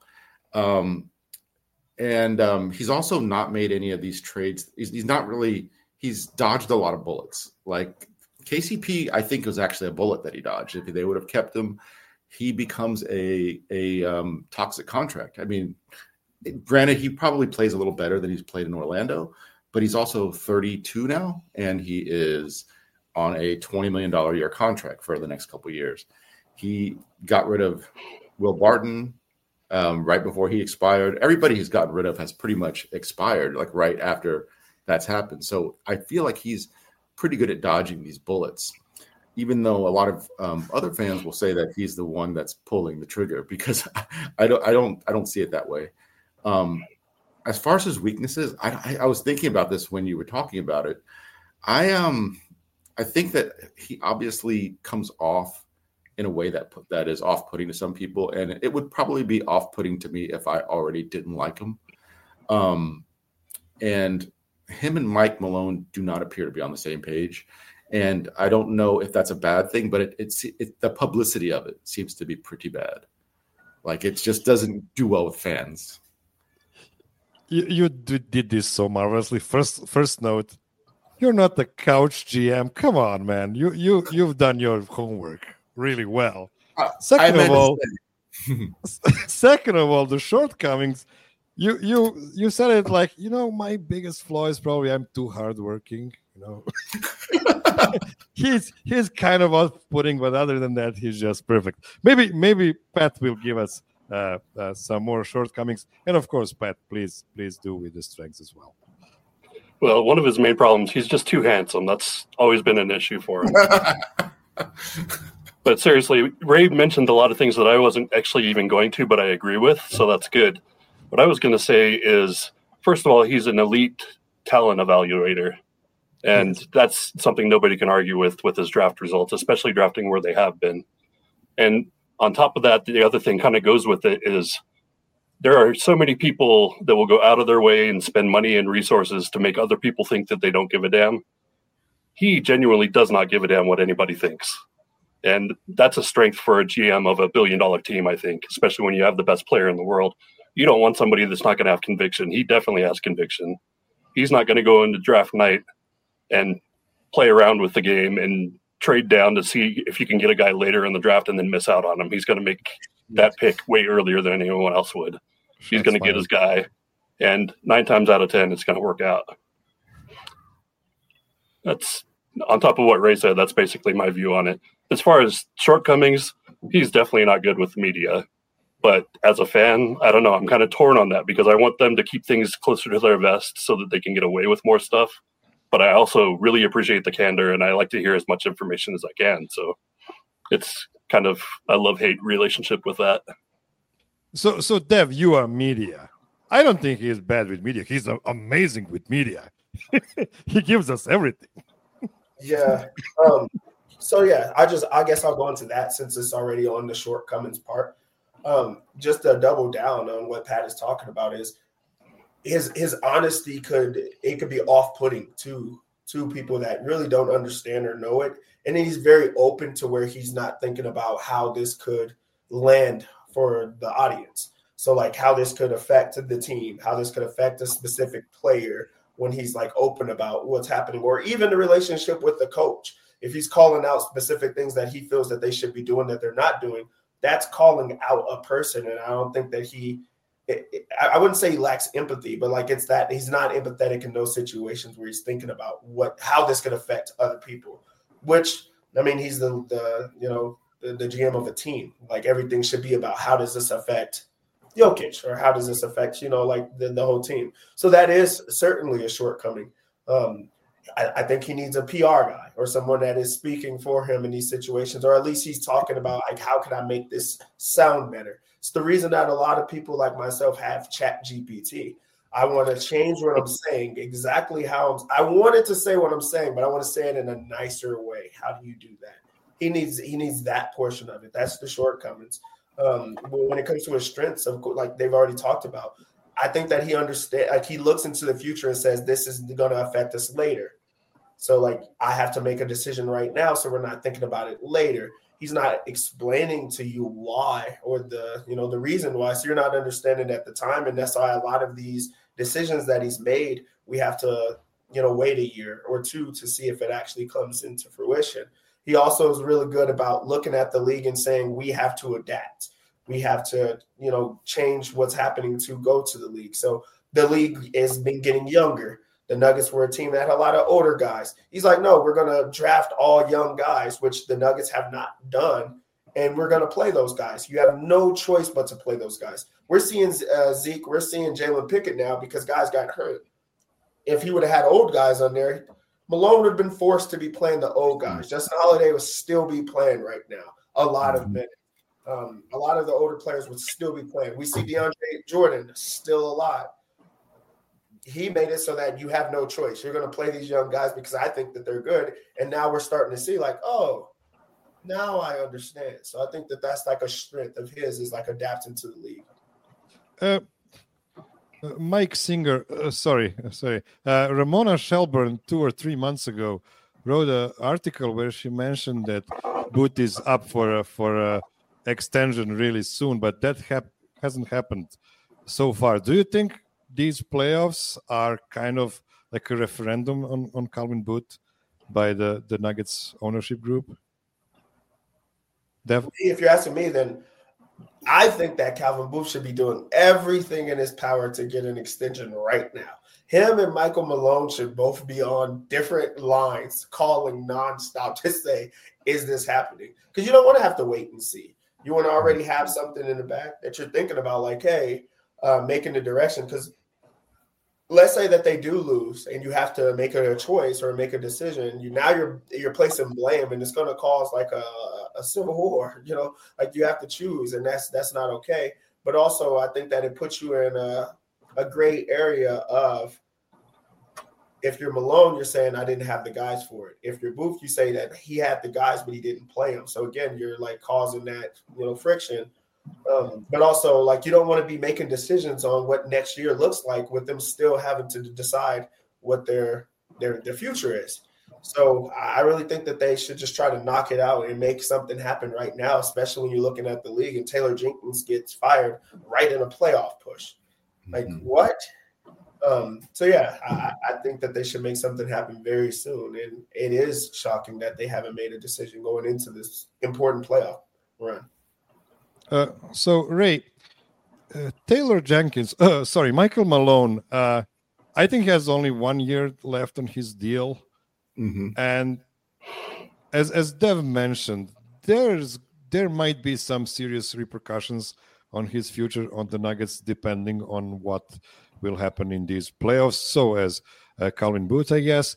Speaker 2: And he's also not made any of these trades. He's dodged a lot of bullets. Like KCP, I think, was actually a bullet that he dodged. If they would have kept him, he becomes a toxic contract. I mean, granted, he probably plays a little better than he's played in Orlando, but he's also 32 now, and he is on a $20 million a year contract for the next couple of years. He got rid of Will Barton right before he expired. Everybody he's gotten rid of has pretty much expired, like right after that's happened. So I feel like he's pretty good at dodging these bullets, even though a lot of other fans will say that he's the one that's pulling the trigger, because I don't see it that way. As far as his weaknesses, I was thinking about this when you were talking about it. I think that he obviously comes off in a way that is off-putting to some people, and it would probably be off-putting to me if I already didn't like him. And him and Mike Malone do not appear to be on the same page, and I don't know if that's a bad thing, but it's the publicity of it seems to be pretty bad. Like, it just doesn't do well with fans.
Speaker 1: You did this so marvelously. First note, you're not the couch GM. Come on, man. You've done your homework really well. Second of all, the shortcomings. You said it like, my biggest flaw is probably I'm too hardworking. He's kind of off-putting, but other than that, he's just perfect. Maybe Pat will give us some more shortcomings, and of course, Pat, please do with the strengths as well.
Speaker 3: Well, one of his main problems, he's just too handsome. That's always been an issue for him. But seriously, Ray mentioned a lot of things that I wasn't actually even going to, but I agree with, so that's good. What I was going to say is, first of all, he's an elite talent evaluator, and that's something nobody can argue with his draft results, especially drafting where they have been. And on top of that, the other thing kind of goes with it is there are so many people that will go out of their way and spend money and resources to make other people think that they don't give a damn. He genuinely does not give a damn what anybody thinks. And that's a strength for a GM of $1 billion team, I think, especially when you have the best player in the world. You don't want somebody that's not going to have conviction. He definitely has conviction. He's not going to go into draft night and play around with the game and trade down to see if you can get a guy later in the draft and then miss out on him. He's going to make that pick way earlier than anyone else would. He's going to get his guy, and 9 times out of 10, it's going to work out. That's on top of what Ray said. That's basically my view on it. As far as shortcomings, he's definitely not good with media. But as a fan, I don't know. I'm kind of torn on that because I want them to keep things closer to their vest so that they can get away with more stuff. But I also really appreciate the candor, and I like to hear as much information as I can. So it's kind of a love-hate relationship with that.
Speaker 1: So Dev, you are media. I don't think he's bad with media. He's amazing with media. He gives us everything.
Speaker 4: Yeah. So yeah, I guess I'll go into that since it's already on the shortcomings part. Just to double down on what Pat is talking about is his honesty could be off-putting to people that really don't understand or know it. And he's very open to where he's not thinking about how this could land for the audience. So like how this could affect the team, how this could affect a specific player, when he's like open about what's happening, or even the relationship with the coach. If he's calling out specific things that he feels that they should be doing that they're not doing, that's calling out a person. And I don't think that I wouldn't say he lacks empathy, but like it's that he's not empathetic in those situations where he's thinking about how this could affect other people. Which, I mean, he's the GM of a team. Like everything should be about how does this affect Jokic, or how does this affect like the whole team. So that is certainly a shortcoming. I think he needs a PR guy or someone that is speaking for him in these situations, or at least he's talking about like, how can I make this sound better? It's the reason that a lot of people like myself have ChatGPT. I want to change what I'm saying exactly how I wanted to say what I'm saying, but I want to say it in a nicer way. How do you do that? He needs that portion of it. That's the shortcomings. When it comes to his strengths, like they've already talked about, I think that he understands, like he looks into the future and says, this is going to affect us later. So like, I have to make a decision right now, so we're not thinking about it later. He's not explaining to you why, or the reason why. So you're not understanding at the time. And that's why a lot of these decisions that he's made, we have to, wait a year or two to see if it actually comes into fruition. He also is really good about looking at the league and saying, we have to adapt. We have to, change what's happening to go to the league. So the league has been getting younger. The Nuggets were a team that had a lot of older guys. He's like, no, we're going to draft all young guys, which the Nuggets have not done, and we're going to play those guys. You have no choice but to play those guys. We're seeing Zeke. We're seeing Jalen Pickett now because guys got hurt. If he would have had old guys on there, Malone would have been forced to be playing the old guys. Justin Holiday would still be playing right now a lot of minutes. A lot of the older players would still be playing. We see DeAndre Jordan still alive. He made it so that you have no choice. You're going to play these young guys because I think that they're good. And now we're starting to see like, oh, now I understand. So I think that that's like a strength of his, is like adapting to the league.
Speaker 1: Mike Singer, Ramona Shelburne 2 or 3 months ago wrote an article where she mentioned that Boot is up for extension really soon, but that hasn't happened so far. Do you think these playoffs are kind of like a referendum on Calvin Booth by the Nuggets ownership group? Dev?
Speaker 4: If you're asking me, then I think that Calvin Booth should be doing everything in his power to get an extension right now. Him and Michael Malone should both be on different lines, calling nonstop to say, is this happening? Because you don't want to have to wait and see. You want to already have something in the back that you're thinking about, like, hey, making the direction. Because let's say that they do lose and you have to make a choice or make a decision. You're placing blame, and it's going to cause like a civil war. Like you have to choose, and that's not okay. But also, I think that it puts you in a gray area of, if you're Malone, you're saying I didn't have the guys for it. If you're Booth, you say that he had the guys, but he didn't play them. So again, you're like causing that friction. But also, like, you don't want to be making decisions on what next year looks like with them still having to decide what their future is. So I really think that they should just try to knock it out and make something happen right now, especially when you're looking at the league and Taylor Jenkins gets fired right in a playoff push. Like, what? So yeah, I think that they should make something happen very soon. And it is shocking that they haven't made a decision going into this important playoff run.
Speaker 1: So Ray, Michael Malone, I think he has only 1 year left on his deal. Mm-hmm. And as Dev mentioned, there might be some serious repercussions on his future on the Nuggets, depending on what will happen in these playoffs. So as Calvin Booth, I guess.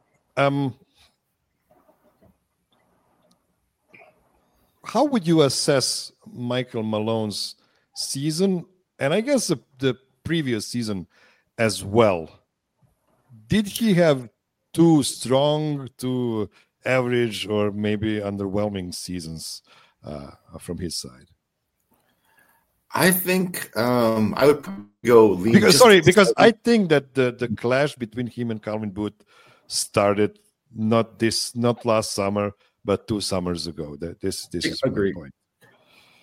Speaker 1: How would you assess Michael Malone's season, and I guess the previous season as well? Did he have too strong, too average, or maybe underwhelming seasons from his side?
Speaker 2: I think I would go lead.
Speaker 1: Because I think that the clash between him and Calvin Booth started not last summer, but 2 summers ago. This is my point.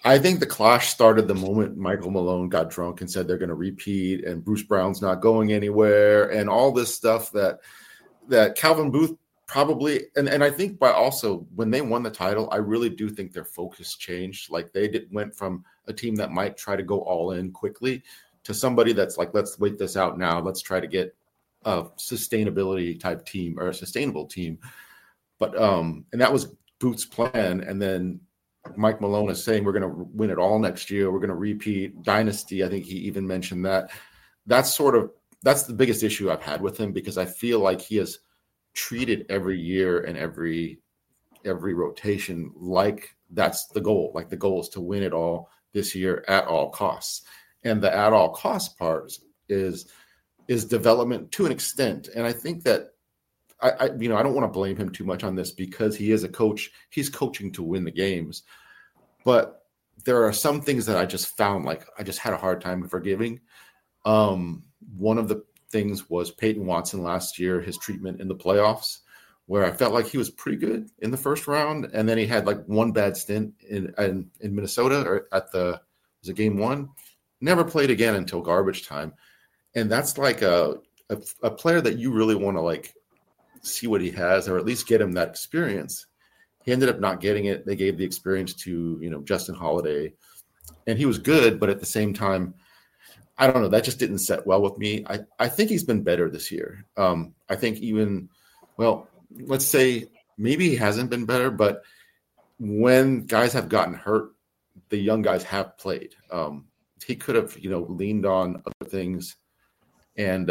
Speaker 2: I think the clash started the moment Michael Malone got drunk and said they're going to repeat, and Bruce Brown's not going anywhere, and all this stuff that Calvin Booth probably, and I think by also when they won the title, I really do think their focus changed. Like they went from a team that might try to go all in quickly to somebody that's like, let's wait this out now. Let's try to get a sustainability type team or a sustainable team. But and that was Booth's plan, and then Mike Malone is saying we're going to win it all next year. We're going to repeat dynasty. I think he even mentioned that. That's the biggest issue I've had with him, because I feel like he has treated every year and every rotation like that's the goal. Like the goal is to win it all this year at all costs. And the at all cost part is development to an extent. And I think that I don't want to blame him too much on this, because he is a coach. He's coaching to win the games. But there are some things that I just found like I just had a hard time forgiving. One of the things was Peyton Watson last year, his treatment in the playoffs, where I felt like he was pretty good in the first round. And then he had like one bad stint in Minnesota or was it game one? Never played again until garbage time. And that's like a player that you really want to like see what he has, or at least get him that experience. He ended up not getting it. They gave the experience to, Justin Holiday, and he was good. But at the same time, I don't know, that just didn't set well with me. I think he's been better this year. I think let's say maybe he hasn't been better, but when guys have gotten hurt, the young guys have played. He could have, leaned on other things and,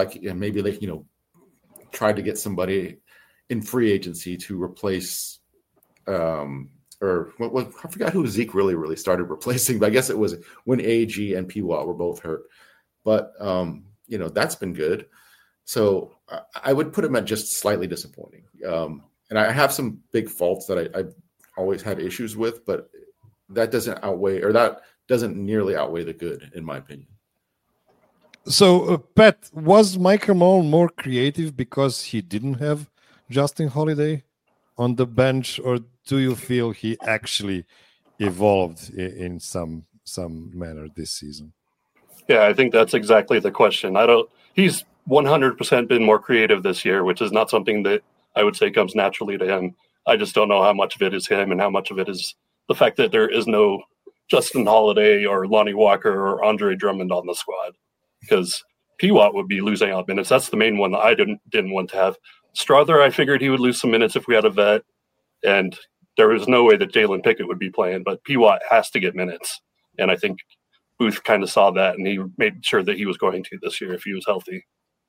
Speaker 2: tried to get somebody in free agency to replace, I forgot who Zeke really started replacing, but I guess it was when AG and P-Watt were both hurt. But, that's been good. So I would put him at just slightly disappointing. And I have some big faults that I've always had issues with, but that doesn't nearly outweigh the good, in my opinion.
Speaker 1: So, Pat, was Michael Malone more creative because he didn't have Justin Holiday on the bench, or do you feel he actually evolved in some manner this season?
Speaker 3: Yeah, I think that's exactly the question. He's 100% been more creative this year, which is not something that I would say comes naturally to him. I just don't know how much of it is him and how much of it is the fact that there is no Justin Holiday or Lonnie Walker or Andre Drummond on the squad. Because P-Watt would be losing out minutes. That's the main one that I didn't want to have. Strother, I figured he would lose some minutes if we had a vet, and there was no way that Jalen Pickett would be playing, but P-Watt has to get minutes. And I think Booth kind of saw that, and he made sure that he was going to this year if he was healthy.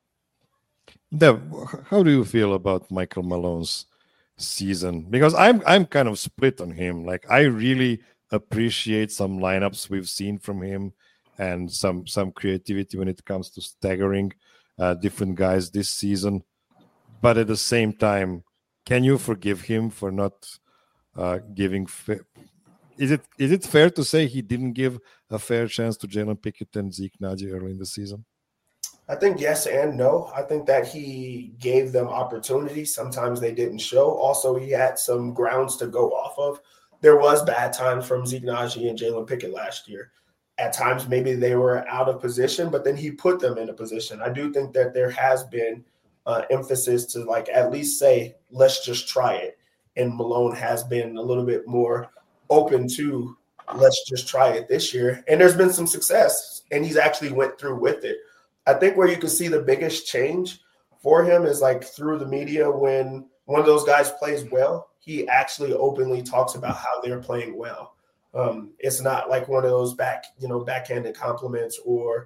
Speaker 1: Dev, how do you feel about Michael Malone's season? Because I'm kind of split on him. Like, I really appreciate some lineups we've seen from him, and some creativity when it comes to staggering different guys this season. But at the same time, can you forgive him for not giving is it fair to say he didn't give a fair chance to Jalen Pickett and Zeke Nnaji early in the season?
Speaker 4: I think yes and no. I think that he gave them opportunities. Sometimes they didn't show. Also, he had some grounds to go off of. There was bad times from Zeke Nnaji and Jalen Pickett last year. At times, maybe they were out of position, but then he put them in a position. I do think that there has been emphasis to like at least say, let's just try it. And Malone has been a little bit more open to let's just try it this year. And there's been some success, and he's actually went through with it. I think where you can see the biggest change for him is like through the media. When one of those guys plays well, he openly talks about how they're playing well. It's not like one of those backhanded compliments or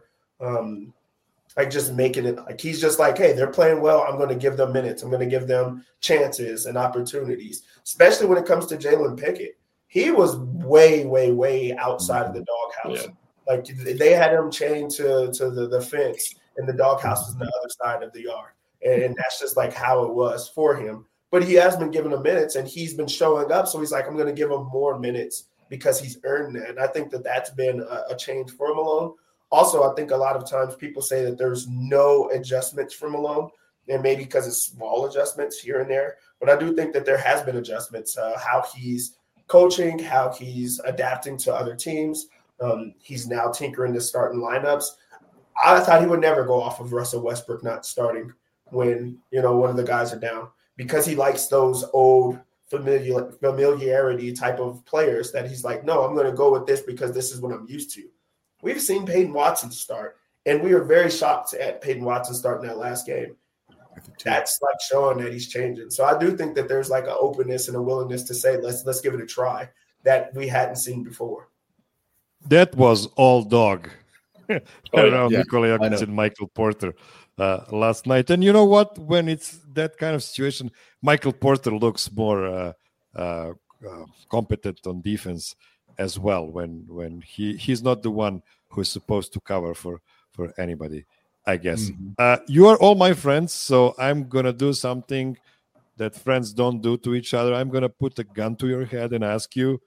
Speaker 4: like just making it like he's just like, hey, they're playing well. I'm going to give them minutes. I'm going to give them chances and opportunities, especially when it comes to Jalen Pickett. He was way, way, way outside of the doghouse. Yeah. Like they had him chained to the fence, and the doghouse was on the other side of the yard. And that's just like how it was for him. But he has been given him minutes, and he's been showing up. So he's like, I'm going to give him more minutes because he's earned that. And I think that that's been a change for Malone. Also, I think a lot of times people say that there's no adjustments for Malone, and maybe because it's small adjustments here and there. But I do think that there has been adjustments, how he's coaching, how he's adapting to other teams. He's now tinkering to starting lineups. I thought he would never go off of Russell Westbrook not starting when, one of the guys are down, because he likes those old familiarity type of players that he's like, no, I'm going to go with this because this is what I'm used to. We've seen Peyton Watson start, and we were very shocked at Peyton Watson starting that last game. That's like showing that he's changing. So I do think that there's like an openness and a willingness to say, let's give it a try that we hadn't seen before.
Speaker 1: That was all dog around
Speaker 2: yeah,
Speaker 1: Nikola Jokic and Michael Porter last night. And you know what? When it's that kind of situation, Michael Porter looks more competent on defense as well. When he's not the one who's supposed to cover for anybody, I guess. You are all my friends, so I'm gonna do something that friends don't do to each other. I'm gonna put a gun to your head and ask you,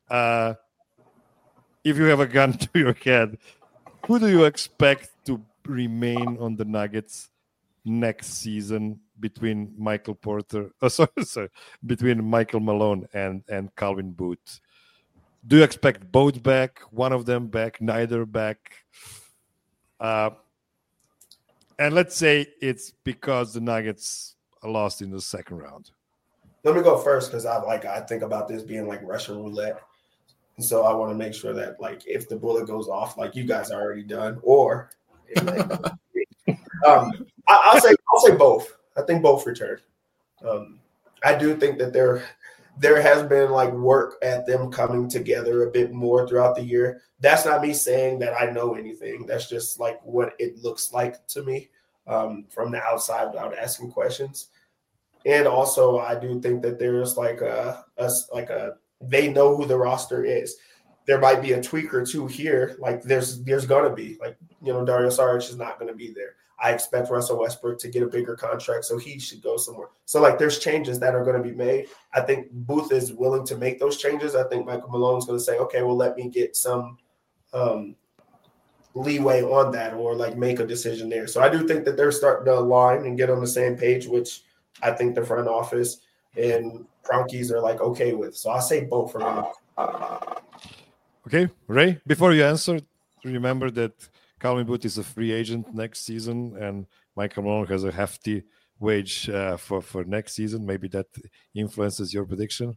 Speaker 1: if you have a gun to your head, who do you expect to remain on the Nuggets next season between Michael Porter? Between Michael Malone and Calvin Booth? Do you expect both back? One of them back? Neither back? And let's say it's because the Nuggets lost in the second round.
Speaker 4: Let me go first because I think about this being like Russian roulette. And so I want to make sure that like if the bullet goes off, like you guys are already done, or I'll say both. I think both returned. I do think that there has been like work at them coming together a bit more throughout the year. That's not me saying that I know anything. That's just like what it looks like to me from the outside without asking questions. And also, I do think that there's they know who the roster is. There might be a tweak or two here. Like there's going to be Dario Saric is not going to be there. I expect Russell Westbrook to get a bigger contract, so he should go somewhere. So like there's changes that are going to be made. I think Booth is willing to make those changes. I think Michael Malone's going to say, okay, well, let me get some leeway on that or like make a decision there. So I do think that they're starting to align and get on the same page, which I think the front office and Kroenkes are like okay with. So I'll say both for me.
Speaker 1: Okay, Ray, before you answer, remember that Calvin Booth is a free agent next season and Michael Malone has a hefty wage for next season. Maybe that influences your prediction?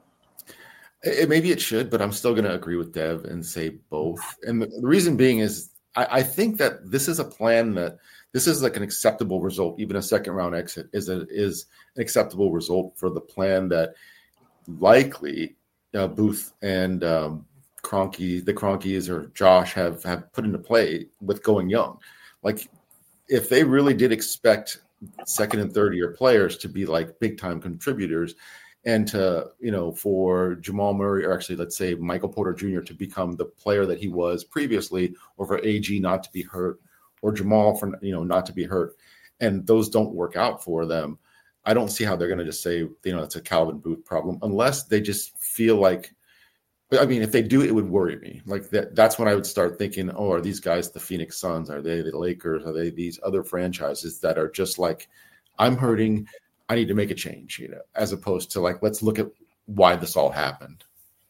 Speaker 2: Maybe it should, but I'm still going to agree with Dev and say both. And the reason being is I think that this is a plan that this is like an acceptable result. Even a second round exit is an acceptable result for the plan that likely Booth and the Kroenkes or Josh have put into play with going young. Like if they really did expect second and third year players to be like big time contributors and to, for Jamal Murray, or actually let's say Michael Porter Jr. to become the player that he was previously, or for AG not to be hurt, or Jamal for, not to be hurt, and those don't work out for them, I don't see how they're going to just say, it's a Calvin Booth problem, unless they just feel like, I mean, if they do, it would worry me. Like that's when I would start thinking, are these guys the Phoenix Suns? Are they the Lakers? Are they these other franchises that are just like, I'm hurting, I need to make a change, as opposed to like, let's look at why this all happened.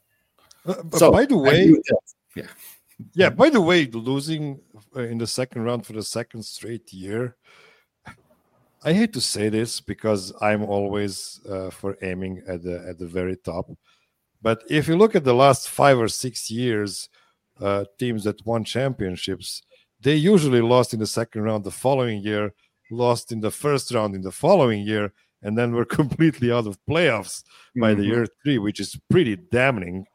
Speaker 1: By the way, by the way, losing in the second round for the second straight year, I hate to say this because I'm always for aiming at the very top. But if you look at the last 5 or 6 years, teams that won championships, they usually lost in the second round the following year, lost in the first round in the following year, and then were completely out of playoffs by the year 3, which is pretty damning.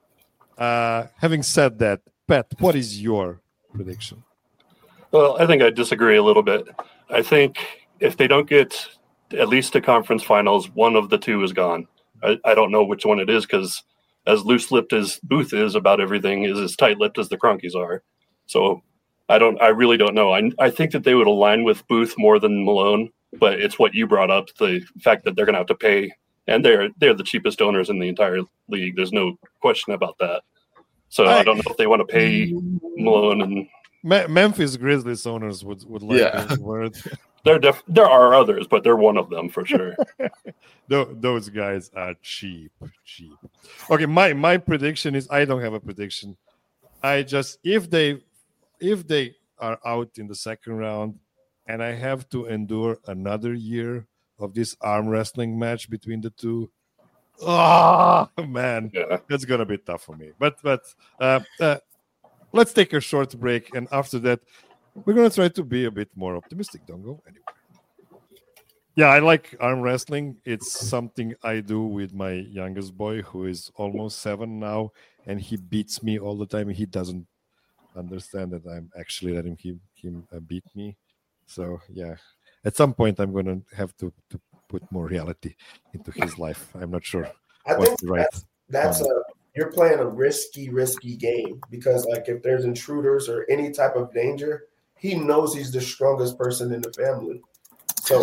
Speaker 1: Having said that, Pat, what is your prediction?
Speaker 3: Well, I think I disagree a little bit. I think if they don't get at least to conference finals, one of the two is gone. I don't know which one it is because as loose-lipped as Booth is about everything, is as tight-lipped as the Kroenkes are. So I really don't know. I think that they would align with Booth more than Malone, but it's what you brought up, the fact that they're going to have to pay, and they're the cheapest owners in the entire league. There's no question about that. So I don't know if they want to pay Malone and
Speaker 1: Memphis Grizzlies owners would like the word.
Speaker 3: There are others, but they're one of them for sure.
Speaker 1: Those guys are cheap. Okay, my prediction is I don't have a prediction. I just if they are out in the second round, and I have to endure another year of this arm wrestling match between the two. Oh man, that's gonna be tough for me. But let's take a short break, and after that, we're gonna try to be a bit more optimistic. Don't go anywhere. Yeah, I like arm wrestling. It's something I do with my youngest boy, who is almost 7 now, and he beats me all the time. He doesn't understand that I'm actually letting him beat me. So yeah, at some point I'm going to have to put more reality into his life. I'm not sure.
Speaker 4: I think that's you're playing a risky game, because like if there's intruders or any type of danger, he knows he's the strongest person in the family. So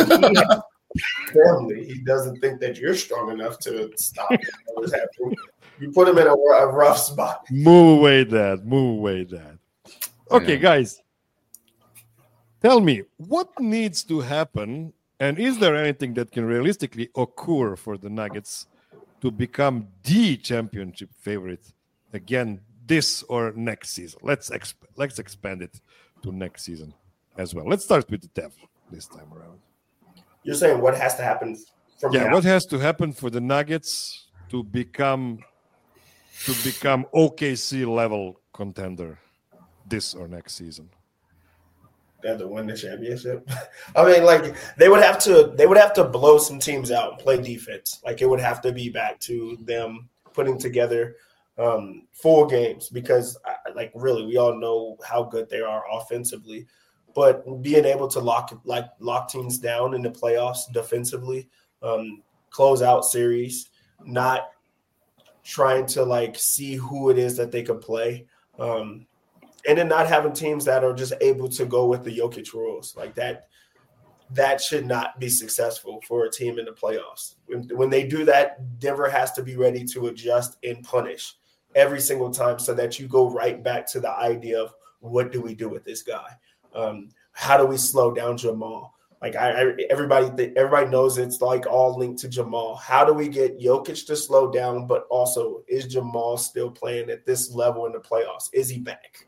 Speaker 4: he doesn't think that you're strong enough to stop what's happening. You put him in a rough spot.
Speaker 1: Move away, Dad. Okay, guys. Tell me, what needs to happen, and is there anything that can realistically occur for the Nuggets to become the championship favorite again this or next season? Let's expand it to next season as well. Let's start with the Dev this time around.
Speaker 4: You're saying what has to happen from now?
Speaker 1: What has to happen for the Nuggets to become OKC level contender this or next season?
Speaker 4: They have to win the championship. I mean, like they would have to blow some teams out and play defense. Like it would have to be back to them putting together full games, because like really we all know how good they are offensively, but being able to lock teams down in the playoffs defensively, close out series, not trying to like see who it is that they could play. And then not having teams that are just able to go with the Jokic rules like that should not be successful for a team in the playoffs. When they do that, Denver has to be ready to adjust and punish every single time, so that you go right back to the idea of what do we do with this guy? How do we slow down Jamal? Like everybody knows it's like all linked to Jamal. How do we get Jokic to slow down, but also is Jamal still playing at this level in the playoffs? Is he back?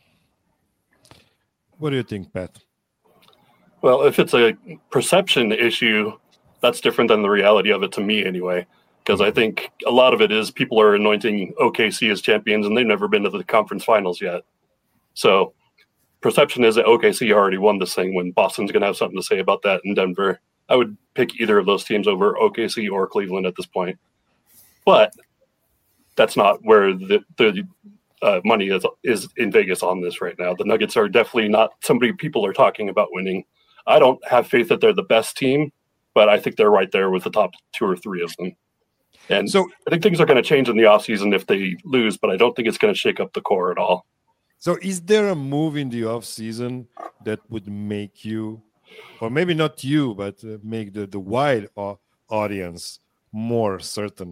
Speaker 1: What do you think, Pat?
Speaker 3: Well, if it's a perception issue, that's different than the reality of it to me anyway, because I think a lot of it is people are anointing OKC as champions and they've never been to the conference finals yet. So perception is that OKC already won this thing when Boston's going to have something to say about that in Denver. I would pick either of those teams over OKC or Cleveland at this point. But that's not where the money is in Vegas on this right now. The Nuggets are definitely not somebody people are talking about winning. I don't have faith that they're the best team, but I think they're right there with the top 2 or 3 of them. And so I think things are going to change in the offseason if they lose, but I don't think it's going to shake up the core at all.
Speaker 1: So is there a move in the offseason that would make you, or maybe not you, but make the wide audience more certain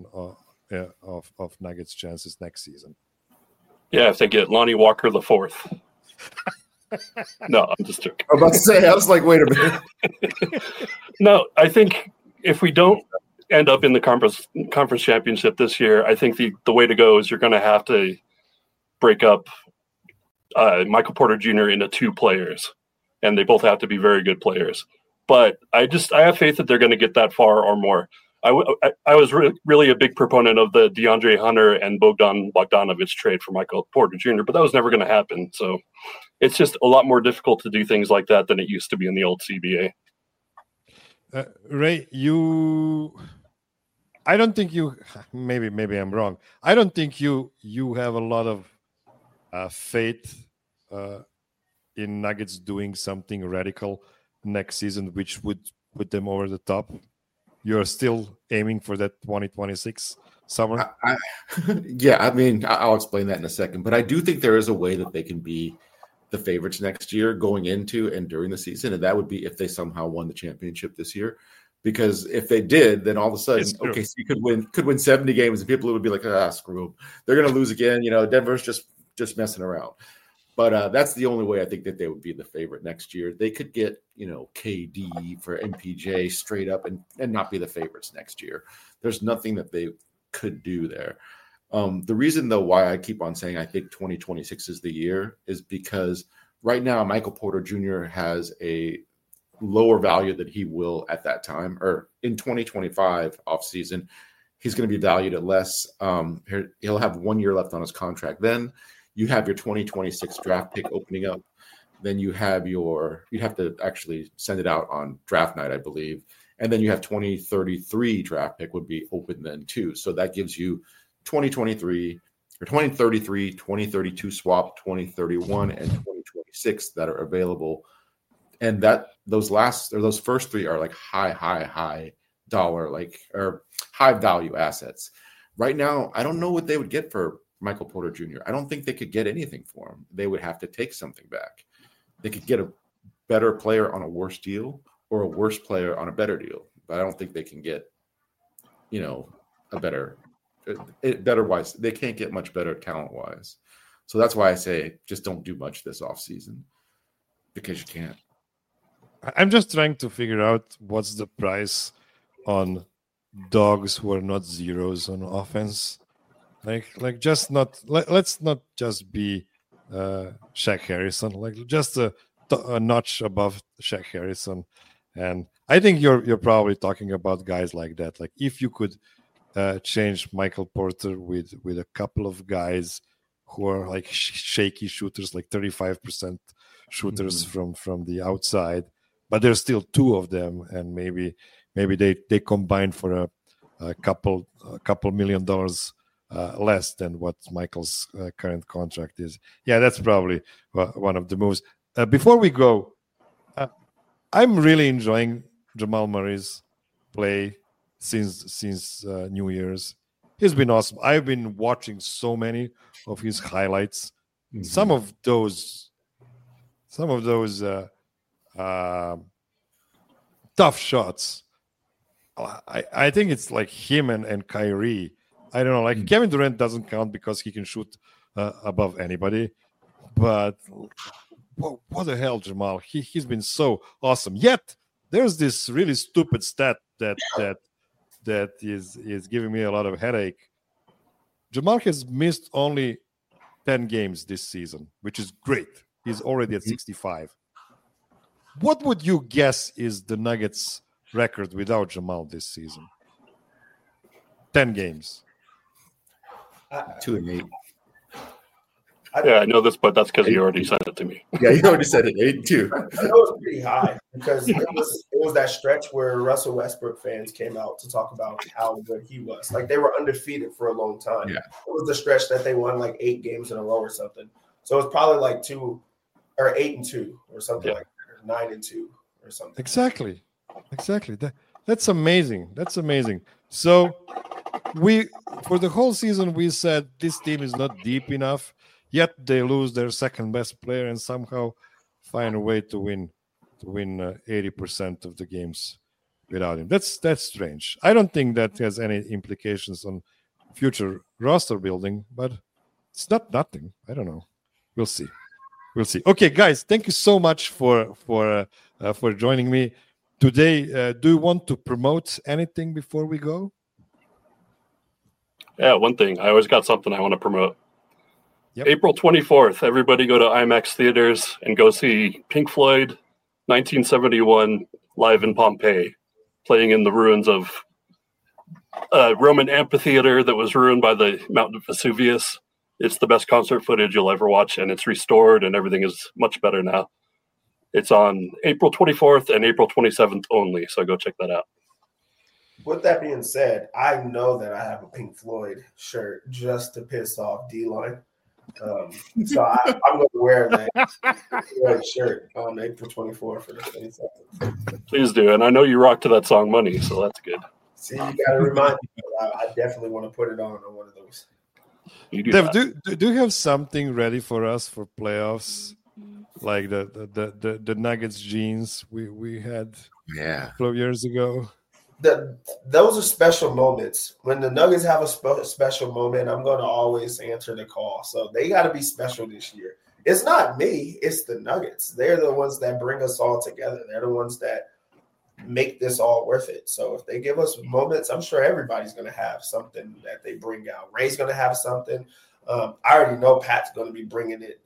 Speaker 1: of Nuggets' chances next season?
Speaker 3: Yeah, if they get Lonnie Walker the 4th. No, I'm just joking.
Speaker 2: I was about to say, I was like, wait a minute.
Speaker 3: No, I think if we don't end up in the conference championship this year, I think the way to go is you're going to have to break up Michael Porter Jr. into 2 players, and they both have to be very good players. But I have faith that they're going to get that far or more. I was really a big proponent of the DeAndre Hunter and Bogdan Bogdanovic trade for Michael Porter Jr., but that was never going to happen. So it's just a lot more difficult to do things like that than it used to be in the old CBA.
Speaker 1: Ray, I don't think you, maybe I'm wrong. I don't think you have a lot of faith in Nuggets doing something radical next season, which would put them over the top. You're still aiming for that 2026 summer?
Speaker 2: Yeah, I mean, I'll explain that in a second. But I do think there is a way that they can be the favorites next year going into and during the season. And that would be if they somehow won the championship this year. Because if they did, then all of a sudden, OKC could win 70 games and people would be like, screw them. They're going to lose again. You know, Denver's just messing around. But that's the only way I think that they would be the favorite next year. They could get, KD for MPJ straight up and not be the favorites next year. There's nothing that they could do there. The reason, though, why I keep on saying I think 2026 is the year is because right now Michael Porter Jr. has a lower value than he will at that time, or in 2025 offseason, he's going to be valued at less. He'll have 1 year left on his contract. Then you have your 2026 draft pick opening up. Then you have you have to actually send it out on draft night, I believe. And then you have 2033 draft pick would be open then too. So that gives you 2023 or 2033, 2032 swap, 2031 and 2026 that are available. And those first three are like high dollar, or high value assets. Right now, I don't know what they would get for Michael Porter Jr. I don't think they could get anything for him. They would have to take something back. They could get a better player on a worse deal or a worse player on a better deal. But I don't think they can get, a better wise. They can't get much better talent wise. So that's why I say just don't do much this offseason, because you can't.
Speaker 1: I'm just trying to figure out what's the price on dogs who are not zeros on offense. Let's not just be Shaq Harrison, just a notch above Shaq Harrison. And I think you're probably talking about guys like that. Like if you could change Michael Porter with a couple of guys who are like shaky shooters, like 35% shooters from the outside, but there's still two of them, and maybe they combine for a couple $1 million less than what Michael's current contract is. Yeah, that's probably one of the moves. Before we go, I'm really enjoying Jamal Murray's play since New Year's. He's been awesome. I've been watching so many of his highlights. Mm-hmm. Some of those tough shots. I think it's like him and Kyrie. I don't know. Like Kevin Durant doesn't count because he can shoot above anybody. But what the hell, Jamal? He's been so awesome. Yet there's this really stupid stat that is giving me a lot of headache. Jamal has missed only 10 games this season, which is great. He's already at 65. What would you guess is the Nuggets' record without Jamal this season? 10 games.
Speaker 2: 2-8.
Speaker 3: Yeah, I know this, but that's because you already said it to me.
Speaker 2: Yeah, you already said it. 8-2.
Speaker 4: I know it's pretty high because it was that stretch where Russell Westbrook fans came out to talk about how good he was. Like they were undefeated for a long time. Yeah. It was the stretch that they won like 8 games in a row or something. So it's probably like 8-2 or something like that, or 9-2 or something.
Speaker 1: Exactly. That's amazing. So for the whole season we said this team is not deep enough. Yet they lose their second best player and somehow find a way to win 80% of the games without him. That's strange. I don't think that has any implications on future roster building, but it's not nothing. I don't know. We'll see. Okay, guys, thank you so much for joining me today. Do you want to promote anything before we go?
Speaker 3: Yeah, one thing. I always got something I want to promote.
Speaker 1: Yep.
Speaker 3: April 24th, everybody go to IMAX theaters and go see Pink Floyd, 1971, live in Pompeii, playing in the ruins of a Roman amphitheater that was ruined by the Mount Vesuvius. It's the best concert footage you'll ever watch, and it's restored, and everything is much better now. It's on April 24th and April 27th only, so go check that out.
Speaker 4: With that being said, I know that I have a Pink Floyd shirt just to piss off D-Line. So I'm going to wear that shirt on April 24th for the 27th.
Speaker 3: Please do. And I know you rock to that song Money, so that's good.
Speaker 4: See, you got to remind me. I definitely want to put it on one of those.
Speaker 3: You do,
Speaker 1: Dev, do you have something ready for us for playoffs? Like the Nuggets jeans we had a couple of years ago?
Speaker 4: Those are special moments. When the Nuggets have a special moment, I'm going to always answer the call. So they got to be special this year. It's not me. It's the Nuggets. They're the ones that bring us all together. They're the ones that make this all worth it. So if they give us moments, I'm sure everybody's going to have something that they bring out. Ray's going to have something. I already know Pat's going to be bringing it.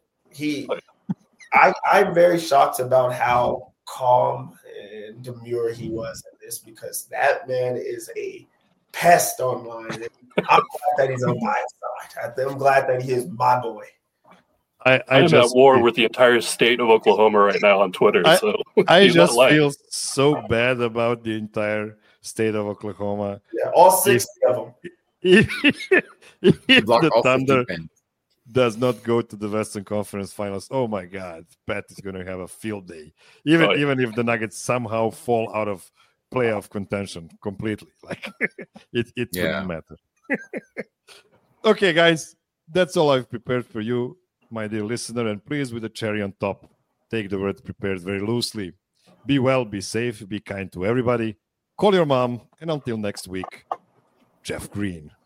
Speaker 4: I'm very shocked about how calm and demure he was in this, because that man is a pest online. I'm glad that he's on my side. I'm glad that he is my boy.
Speaker 3: I'm at war with the entire state of Oklahoma right now on Twitter.
Speaker 1: I just feel so bad about the entire state of Oklahoma.
Speaker 4: Yeah, all 60 of them.
Speaker 1: If the Thunder does not go to the Western Conference Finals, oh my God, Pat is going to have a field day. Even if the Nuggets somehow fall out of playoff contention completely, like it wouldn't matter. Okay, guys, that's all I've prepared for you, my dear listener, and please, with a cherry on top, take the word prepared very loosely. Be well, be safe, be kind to everybody. Call your mom, and until next week, Jeff Green.